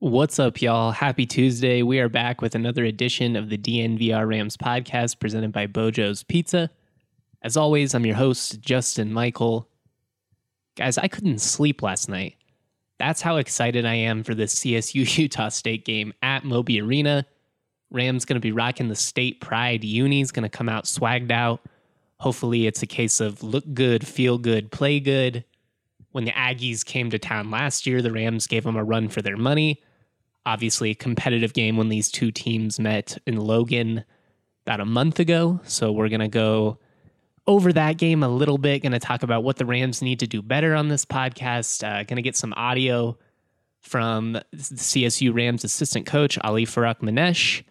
What's up, y'all? Happy Tuesday. We are back with another edition of the DNVR Rams podcast presented by Bojo's Pizza. As always, I'm your host, Justin Michael. Guys, I couldn't sleep last night. That's how excited I am for this CSU-Utah State game at Moby Arena. Rams going to be rocking the state pride. Uni's going to come out swagged out. Hopefully it's a case of look good, feel good, play good. When the Aggies came to town last year, the Rams gave them a run for their money. Obviously, a competitive game when these two teams met in Logan about a month ago. So we're going to go over that game a little bit. Going to talk about what the Rams need to do better on this podcast. Going to get some audio from the CSU Rams assistant coach, Ali Farakmanesh.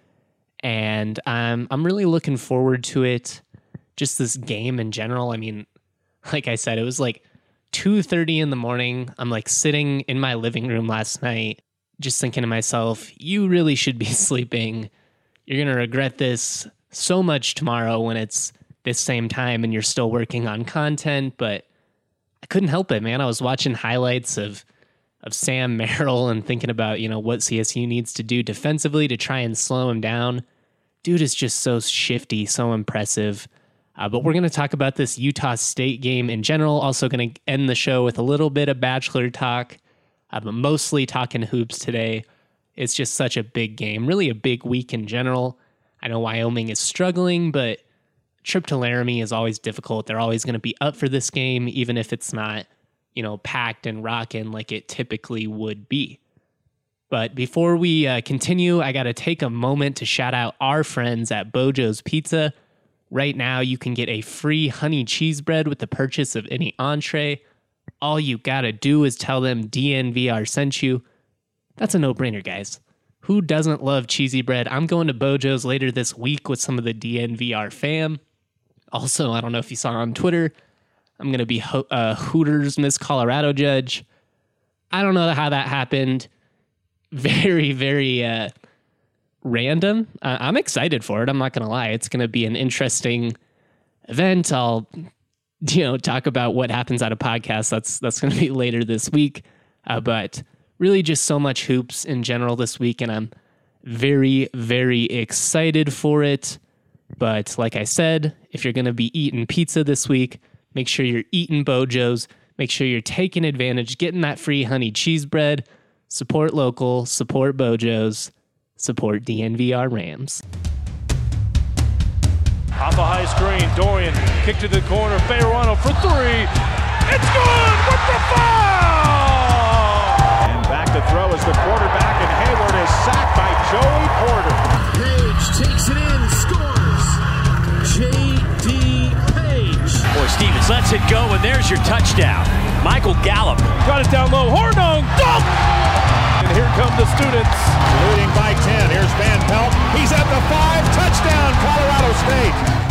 And I'm really looking forward to it. Just this game in general. I mean, like I said, it was like 2:30 in the morning. I'm like sitting in my living room last night, just thinking to myself, you really should be sleeping. You're going to regret this so much tomorrow when it's this same time and you're still working on content. But I couldn't help it, man. I was watching highlights of Sam Merrill and thinking about, what CSU needs to do defensively to try and slow him down. Dude is just so shifty, so impressive. But we're going to talk about this Utah State game in general. Also going to end the show with a little bit of Bachelor talk. But mostly talking hoops today. It's just such a big game, really a big week in general. I know Wyoming is struggling, but trip to Laramie is always difficult. They're always going to be up for this game, even if it's not, packed and rocking like it typically would be. But before we continue, I got to take a moment to shout out our friends at Bojo's Pizza. Right now, you can get a free honey cheese bread with the purchase of any entree. All you gotta do is tell them DNVR sent you. That's a no-brainer, guys. Who doesn't love cheesy bread? I'm going to Bojo's later this week with some of the DNVR fam. Also, I don't know if you saw on Twitter, I'm going to be Hooters Miss Colorado judge. I don't know how that happened. Very, very random. I'm excited for it. I'm not going to lie. It's going to be an interesting event. I'll talk about what happens at a podcast. That's going to be later this week. But really just so much hoops in general this week, and I'm very, very excited for it. But like I said, if you're going to be eating pizza this week, make sure you're eating Bojo's. Make sure you're taking advantage, getting that free honey cheese bread. Support local, support Bojo's, support DNVR Rams. Off a high screen, Dorian, kick to the corner, Bejarano for three. It's good with the foul! And back to throw is the quarterback, and Hayward is sacked by Joey Porter. Page takes it in, scores. J.D. Page. Boy, Stevens lets it go, and there's your touchdown. Michael Gallup. Got it down low, Hornung, dunk! And here come the students. Leading by 10. Here's Van Pelt. He's at the 5. Touchdown, Colorado State.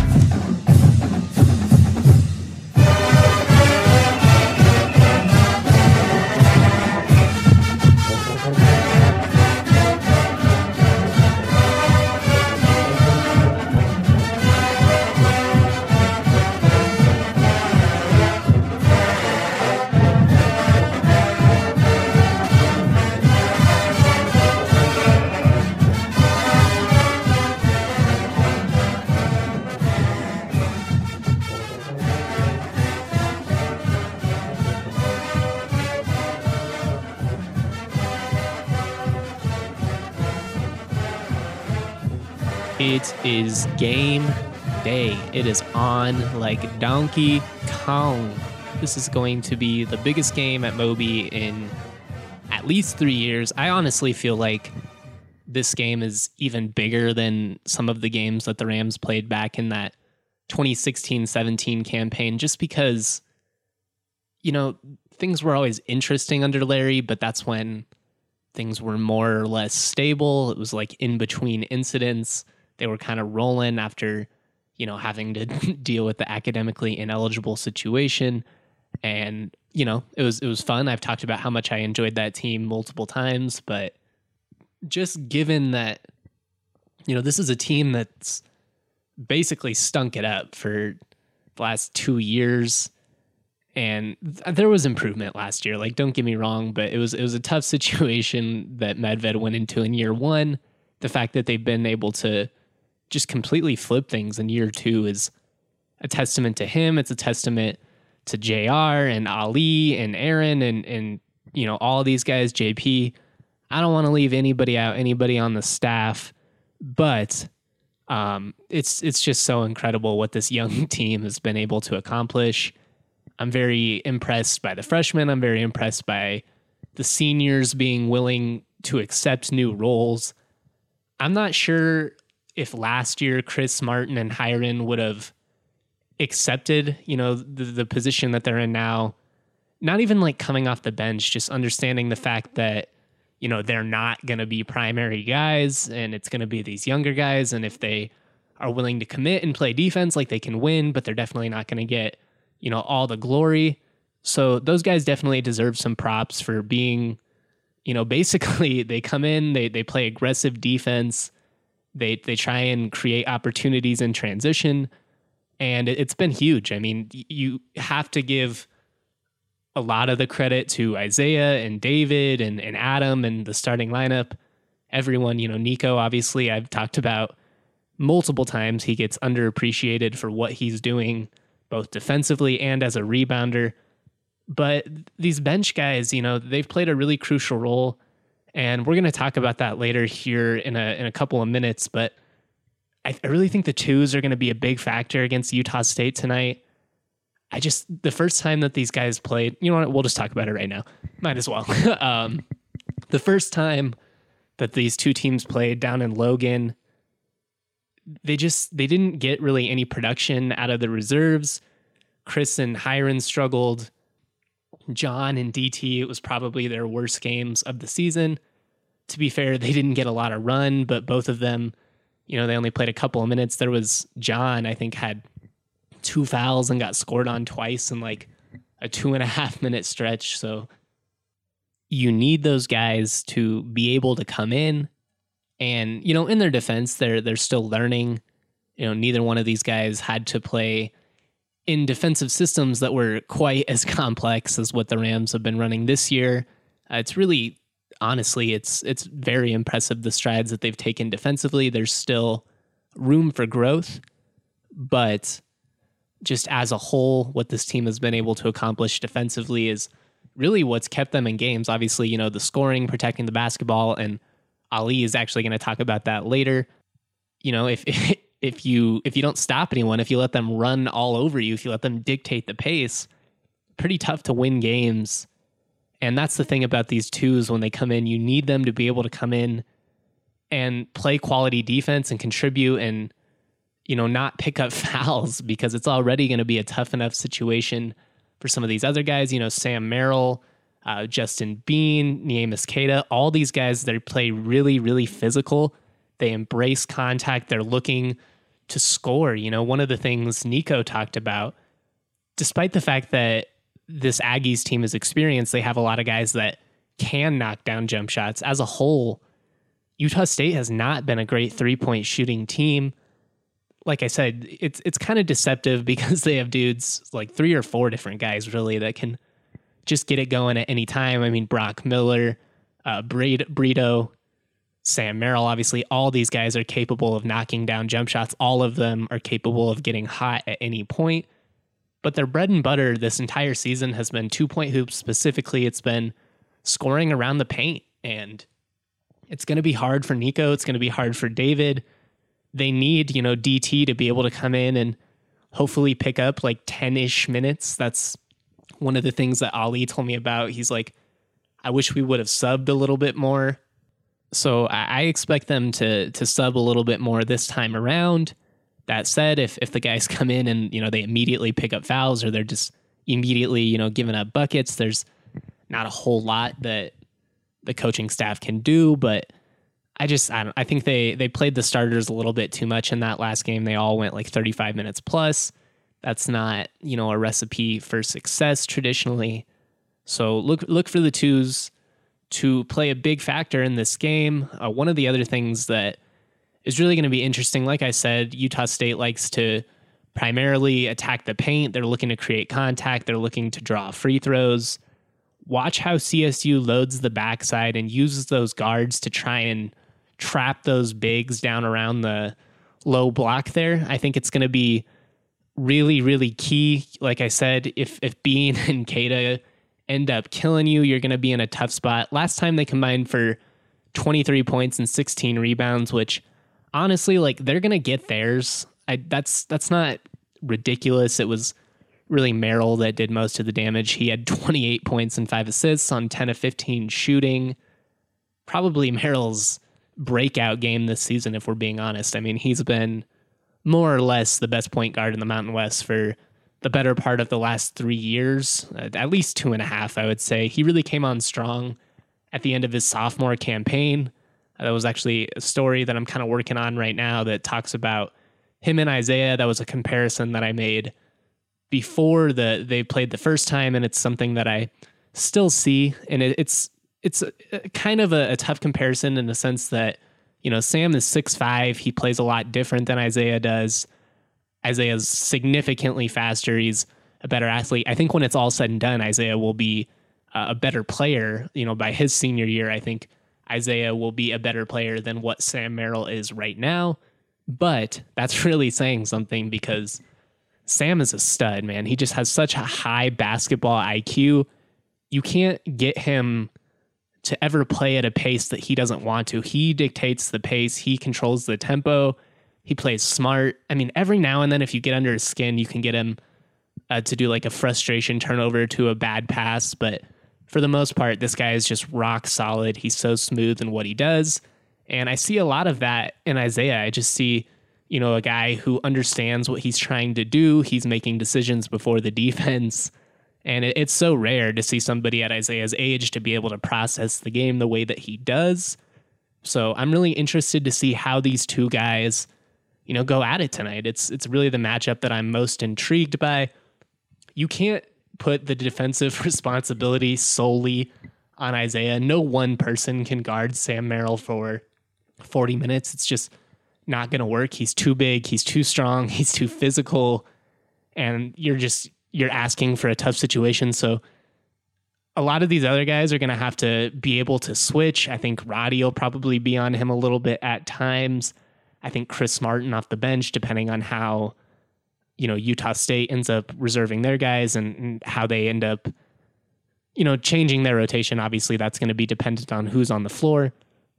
It is game day. It is on like Donkey Kong. This is going to be the biggest game at Moby in at least 3 years. I honestly feel like this game is even bigger than some of the games that the Rams played back in that 2016-17 campaign, just because, things were always interesting under Larry, but that's when things were more or less stable. It was like in between incidents. They were kind of rolling after, having to deal with the academically ineligible situation. And, it was fun. I've talked about how much I enjoyed that team multiple times, but just given that, this is a team that's basically stunk it up for the last 2 years. And there was improvement last year. Like, don't get me wrong, but it was a tough situation that Medved went into in year one. The fact that they've been able to just completely flip things in year two is a testament to him. It's a testament to JR and Ali and Aaron and all these guys, JP. I don't want to leave anybody out, anybody on the staff, but it's just so incredible what this young team has been able to accomplish. I'm very impressed by the freshmen. I'm very impressed by the seniors being willing to accept new roles. I'm not sure if last year Chris Martin and Hiron would have accepted, the position that they're in now. Not even like coming off the bench, just understanding the fact that, they're not going to be primary guys and it's going to be these younger guys. And if they are willing to commit and play defense, like they can win, but they're definitely not going to get, all the glory. So those guys definitely deserve some props for being, basically they come in, they play aggressive defense. They try and create opportunities in transition. And it's been huge. I mean, you have to give a lot of the credit to Isaiah and David and Adam and the starting lineup. Everyone, Nico, obviously, I've talked about multiple times. He gets underappreciated for what he's doing, both defensively and as a rebounder. But these bench guys, they've played a really crucial role. And we're going to talk about that later here in a couple of minutes. But I really think the twos are going to be a big factor against Utah State tonight. The first time that these guys played, we'll just talk about it right now. Might as well. The first time that these two teams played down in Logan, they didn't get really any production out of the reserves. Chris and Hiron struggled. John and DT, it was probably their worst games of the season. To be fair, they didn't get a lot of run, but both of them, they only played a couple of minutes. There was John, I think, had 2 fouls and got scored on twice in like a 2.5 minute stretch. So you need those guys to be able to come in and, in their defense, they're still learning. Neither one of these guys had to play in defensive systems that were quite as complex as what the Rams have been running this year. It's really, honestly, it's very impressive, the strides that they've taken defensively. There's still room for growth, but just as a whole, what this team has been able to accomplish defensively is really what's kept them in games. Obviously, the scoring, protecting the basketball, and Ali is actually going to talk about that later. If you don't stop anyone, if you let them run all over you, if you let them dictate the pace, pretty tough to win games. And that's the thing about these twos when they come in. You need them to be able to come in and play quality defense and contribute and not pick up fouls, because it's already going to be a tough enough situation for some of these other guys. Sam Merrill, Justin Bean, Niemus Keita, all these guys that play really, really physical. They embrace contact. They're looking to score. One of the things Nico talked about, despite the fact that this Aggies team is experienced, they have a lot of guys that can knock down jump shots. As a whole, Utah State has not been a great 3-point shooting team. Like I said, it's kind of deceptive because they have dudes, like 3 or 4 different guys really that can just get it going at any time. I mean, Brock Miller, Brito, Sam Merrill, obviously all these guys are capable of knocking down jump shots. All of them are capable of getting hot at any point. But their bread and butter this entire season has been 2-point hoops. Specifically, it's been scoring around the paint. And it's going to be hard for Nico. It's going to be hard for David. They need, DT to be able to come in and hopefully pick up like 10-ish minutes. That's one of the things that Ali told me about. He's like, I wish we would have subbed a little bit more. So I expect them to sub a little bit more this time around. That said, if the guys come in and, they immediately pick up fouls or they're just immediately, giving up buckets, there's not a whole lot that the coaching staff can do, but I think they played the starters a little bit too much in that last game. They all went like 35 minutes plus. That's not, a recipe for success traditionally. So look for the twos to play a big factor in this game. One of the other things that is really going to be interesting, like I said, Utah State likes to primarily attack the paint. They're looking to create contact. They're looking to draw free throws. Watch how CSU loads the backside and uses those guards to try and trap those bigs down around the low block there. I think it's going to be really, really key. Like I said, if Bean and Keita end up killing you, you're going to be in a tough spot. Last time they combined for 23 points and 16 rebounds, which honestly, like, they're going to get theirs. That's not ridiculous. It was really Merrill that did most of the damage. He had 28 points and 5 assists on 10 of 15 shooting. Probably Merrill's breakout game this season, if we're being honest. I mean, he's been more or less the best point guard in the Mountain West for the better part of the last 3 years, at least 2.5, I would say. He really came on strong at the end of his sophomore campaign. That was actually a story that I'm kind of working on right now that talks about him and Isaiah. That was a comparison that I made before they played the first time, and it's something that I still see. And it's a kind of a tough comparison in the sense that, you know, Sam is 6'5". He plays a lot different than Isaiah does. Isaiah's significantly faster. He's a better athlete. I think when it's all said and done, Isaiah will be a better player. You know, by his senior year, I think Isaiah will be a better player than what Sam Merrill is right now. But that's really saying something because Sam is a stud, man. He just has such a high basketball IQ. You can't get him to ever play at a pace that he doesn't want to. He dictates the pace. He controls the tempo. He plays smart. I mean, every now and then, if you get under his skin, you can get him to do like a frustration turnover to a bad pass. But for the most part, this guy is just rock solid. He's so smooth in what he does. And I see a lot of that in Isaiah. I just see, you know, a guy who understands what he's trying to do. He's making decisions before the defense. And it's so rare to see somebody at Isaiah's age to be able to process the game the way that he does. So I'm really interested to see how these two guys, you know, go at it tonight. It's really the matchup that I'm most intrigued by. You can't put the defensive responsibility solely on Isaiah. No one person can guard Sam Merrill for 40 minutes. It's just not going to work. He's too big. He's too strong. He's too physical. And you're asking for a tough situation. So a lot of these other guys are going to have to be able to switch. I think Roddy will probably be on him a little bit at times. I think Chris Martin off the bench, depending on how, you know, Utah State ends up reserving their guys and how they end up, you know, changing their rotation. Obviously, that's going to be dependent on who's on the floor.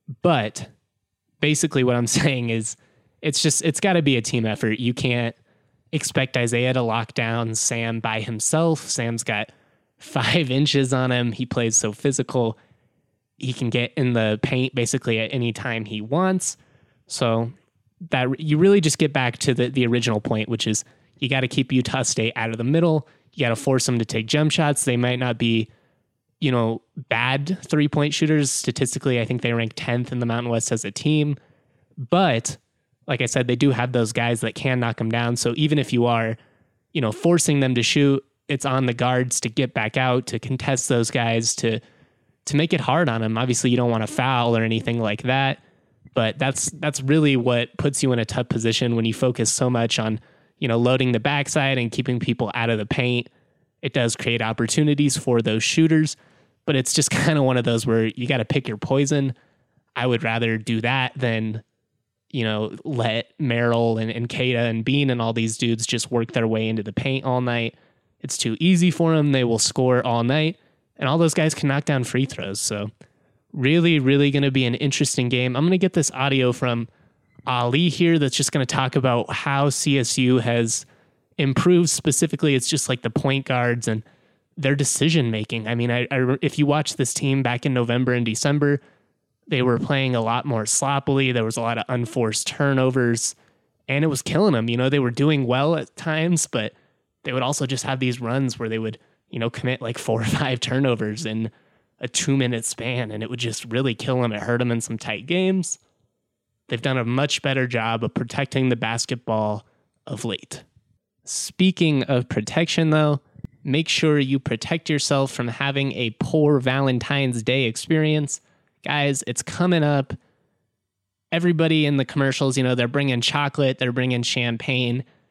But basically what I'm saying is it's got to be a team effort. You can't expect Isaiah to lock down Sam by himself. Sam's got 5 inches on him. He plays so physical. He can get in the paint basically at any time he wants. So that you really just get back to the original point, which is you got to keep Utah State out of the middle. You got to force them to take jump shots. They might not be, you know, bad 3-point shooters. Statistically, I think they rank 10th in the Mountain West as a team. But like I said, they do have those guys that can knock them down. So even if you are, you know, forcing them to shoot, it's on the guards to get back out, to contest those guys, to make it hard on them. Obviously, you don't want to foul or anything like that. But that's really what puts you in a tough position when you focus so much on, you know, loading the backside and keeping people out of the paint. It does create opportunities for those shooters, but it's just kind of one of those where you got to pick your poison. I would rather do that than, you know, let Merrill and Keita and Bean and all these dudes just work their way into the paint all night. It's too easy for them. They will score all night, and all those guys can knock down free throws. So really, really going to be an interesting game. I'm going to get this audio from Ali here that's just going to talk about how CSU has improved. Specifically, it's just like the point guards and their decision making. I mean, if you watch this team back in November and December, they were playing a lot more sloppily. There was a lot of unforced turnovers, and it was killing them. You know, they were doing well at times, but they would also just have these runs where they would, you know, commit like 4 or 5 turnovers in a 2-minute span, and it would just really kill them. It hurt them in some tight games. They've done a much better job of protecting the basketball of late. Speaking of protection, though, make sure you protect yourself from having a poor Valentine's Day experience. Guys, it's coming up. Everybody in the commercials, you know, they're bringing chocolate, they're bringing champagne.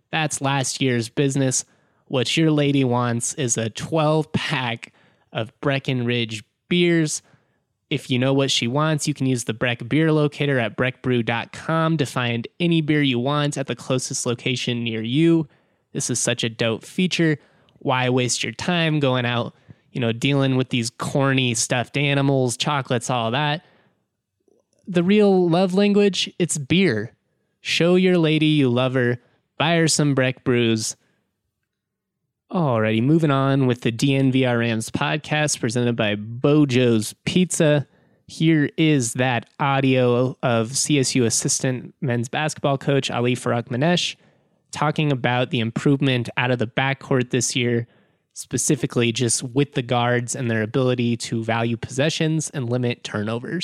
That's last year's business. What your lady wants is a 12-pack of Breckenridge beers. If you know what she wants, you can use the Breck Beer Locator at breckbrew.com to find any beer you want at the closest location near you. This is such a dope feature. Why waste your time going out, dealing with these corny stuffed animals, chocolates, all that? The real love language, it's beer. Show your lady you love her. Buy her some Breck brews. Alrighty, moving on with the DNVR Rams podcast presented by Bojo's Pizza. Here is that audio of CSU assistant men's basketball coach Ali Farakmanesh talking about the improvement out of the backcourt this year, specifically just with the guards and their ability to value possessions and limit turnovers.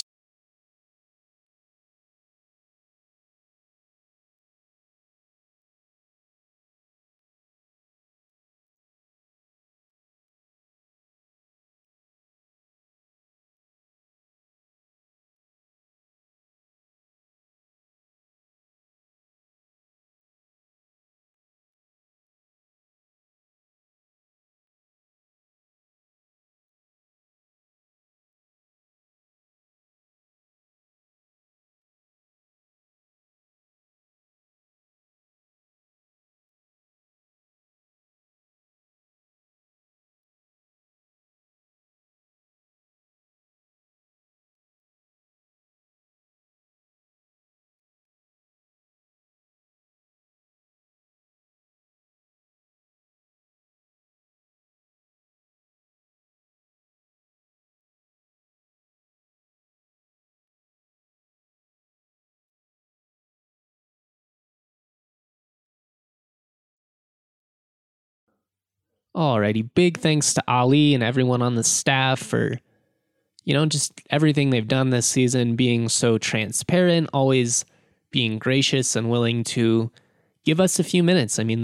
Alrighty, big thanks to Ali and everyone on the staff for, just everything they've done this season, being so transparent, always being gracious and willing to give us a few minutes. I mean,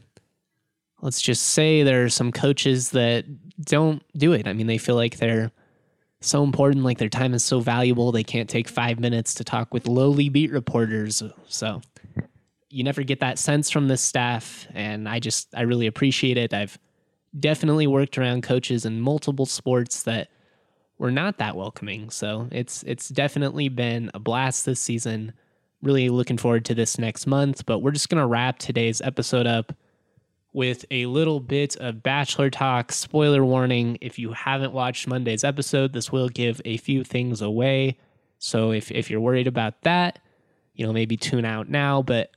let's just say there are some coaches that don't do it. I mean, they feel like they're so important, like their time is so valuable, they can't take 5 minutes to talk with lowly beat reporters. So you never get that sense from this staff, and I really appreciate it. I've definitely worked around coaches in multiple sports that were not that welcoming. So it's definitely been a blast this season. Really looking forward to this next month, but we're just going to wrap today's episode up with a little bit of Bachelor talk. Spoiler warning, if you haven't watched Monday's episode, this will give a few things away. So if you're worried about that, maybe tune out now. But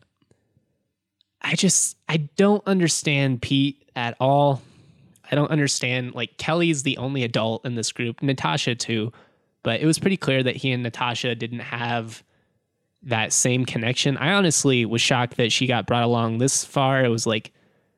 I don't understand Pete at all. I don't understand, Kelly's the only adult in this group, Natasha too, but it was pretty clear that he and Natasha didn't have that same connection. I honestly was shocked that she got brought along this far. It was I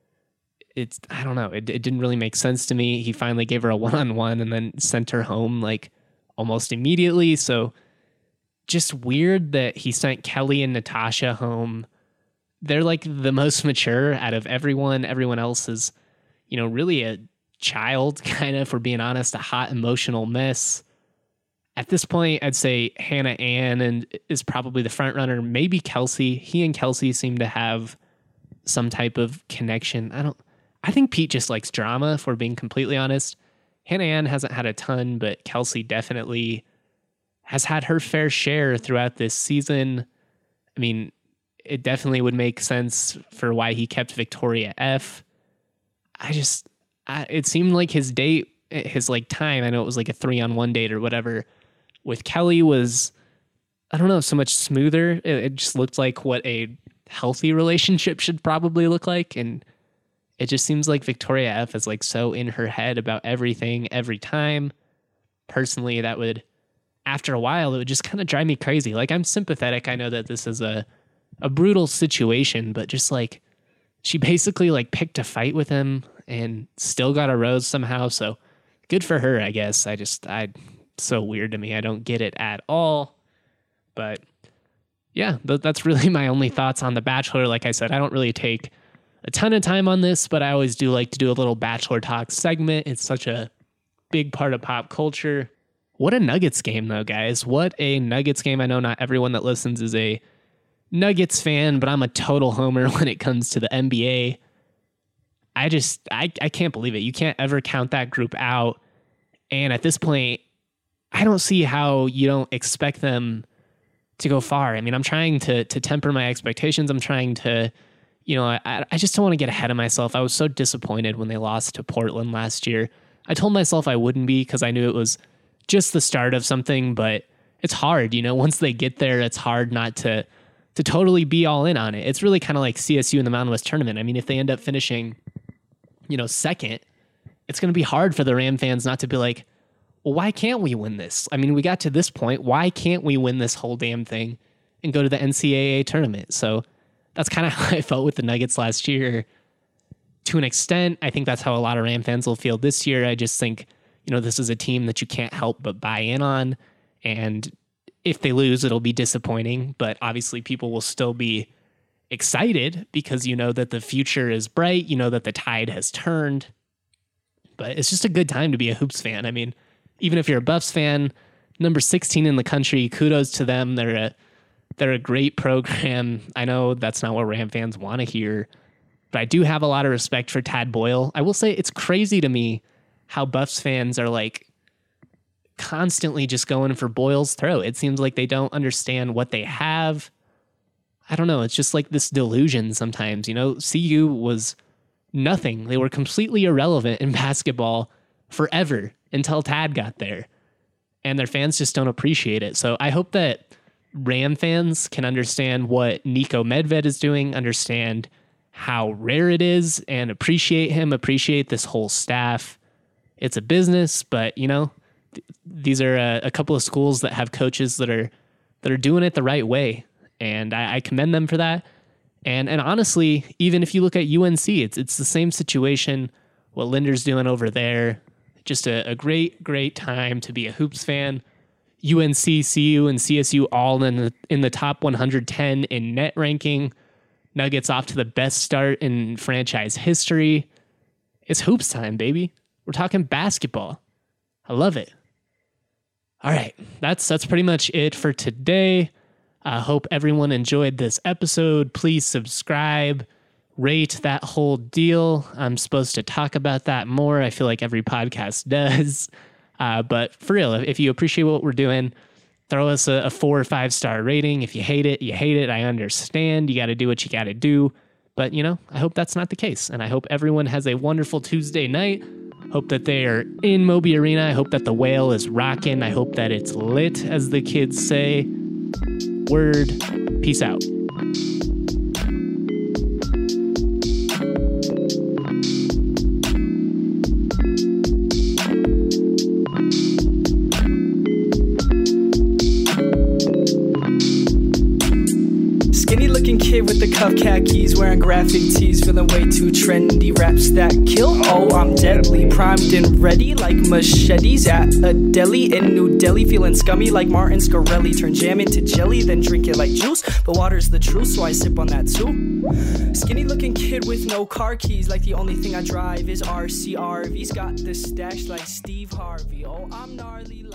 don't know, it didn't really make sense to me. He finally gave her a one-on-one and then sent her home almost immediately. So just weird that he sent Kelly and Natasha home. They're the most mature out of everyone. Everyone else is really a child, kind of, for being honest, a hot emotional mess. At this point, I'd say Hannah Ann is probably the front runner. Maybe Kelsey. He and Kelsey seem to have some type of connection. I think Pete just likes drama, if we're being completely honest. Hannah Ann hasn't had a ton, but Kelsey definitely has had her fair share throughout this season. I mean, it definitely would make sense for why he kept Victoria F. It seemed like his date, his time, I know it was a 3-on-1 date or whatever, with Kelly was, I don't know, so much smoother. It just looked like what a healthy relationship should probably look like. And it just seems like Victoria F is so in her head about everything every time. Personally, that would, after a while, it would just kind of drive me crazy. I'm sympathetic. I know that this is a brutal situation, but just she basically picked a fight with him and still got a rose somehow. So good for her, I guess. So weird to me. I don't get it at all. But yeah, that's really my only thoughts on The Bachelor. Like I said, I don't really take a ton of time on this, but I always do like to do a little Bachelor talk segment. It's such a big part of pop culture. What a Nuggets game, though, guys. What a Nuggets game. I know not everyone that listens is a Nuggets fan, but I'm a total homer when it comes to the NBA. I can't believe it. You can't ever count that group out. And at this point, I don't see how you don't expect them to go far. I mean, I'm trying to temper my expectations. I'm trying to, I just don't want to get ahead of myself. I was so disappointed when they lost to Portland last year. I told myself I wouldn't be because I knew it was just the start of something, but it's hard, once they get there, it's hard not to totally be all in on it. It's really kind of like CSU in the Mountain West tournament. I mean, if they end up finishing, second, it's going to be hard for the Ram fans not to be like, well, why can't we win this? I mean, we got to this point. Why can't we win this whole damn thing and go to the NCAA tournament? So that's kind of how I felt with the Nuggets last year. To an extent, I think that's how a lot of Ram fans will feel this year. I just think, this is a team that you can't help but buy in on. And if they lose, it'll be disappointing. But obviously people will still be excited because that the future is bright, that the tide has turned. But it's just a good time to be a Hoops fan. I mean, even if you're a Buffs fan, number 16 in the country, kudos to them. They're a great program. I know that's not what Ram fans want to hear, but I do have a lot of respect for Tad Boyle. I will say it's crazy to me how Buffs fans are like constantly just going for Boyle's throat. It seems like they don't understand what they have. I don't know. It's just like this delusion sometimes. CU was nothing. They were completely irrelevant in basketball forever until Tad got there. And their fans just don't appreciate it. So I hope that Ram fans can understand what Niko Medved is doing, understand how rare it is, and appreciate him, appreciate this whole staff. It's a business, but these are a couple of schools that have coaches that are doing it the right way, and I commend them for that. And honestly, even if you look at UNC, it's the same situation. What Linder's doing over there, just a great time to be a Hoops fan. UNC, CU, and CSU all in the top 110 in net ranking. Nuggets off to the best start in franchise history. It's Hoops time, baby. We're talking basketball. I love it. All right, that's pretty much it for today. I hope everyone enjoyed this episode. Please subscribe, rate, that whole deal. I'm supposed to talk about that more. I feel like every podcast does. But for real, if you appreciate what we're doing, throw us a 4 or 5 star rating. If you hate it, you hate it. I understand. You got to do what you got to do. But, I hope that's not the case. And I hope everyone has a wonderful Tuesday night. Hope that they are in Moby Arena. I hope that the whale is rocking. I hope that it's lit, as the kids say. Word. Peace out. With the cuff khakis, wearing graphic tees, feeling way too trendy. Raps that kill, oh I'm deadly, primed and ready like machetes at a deli in New Delhi. Feeling scummy like Martin Scarelli, turn jam into jelly, then drink it like juice. But water's the truth, so I sip on that too. Skinny looking kid with no car keys, like the only thing I drive is RCRV's. Got the stash like Steve Harvey, oh I'm gnarly.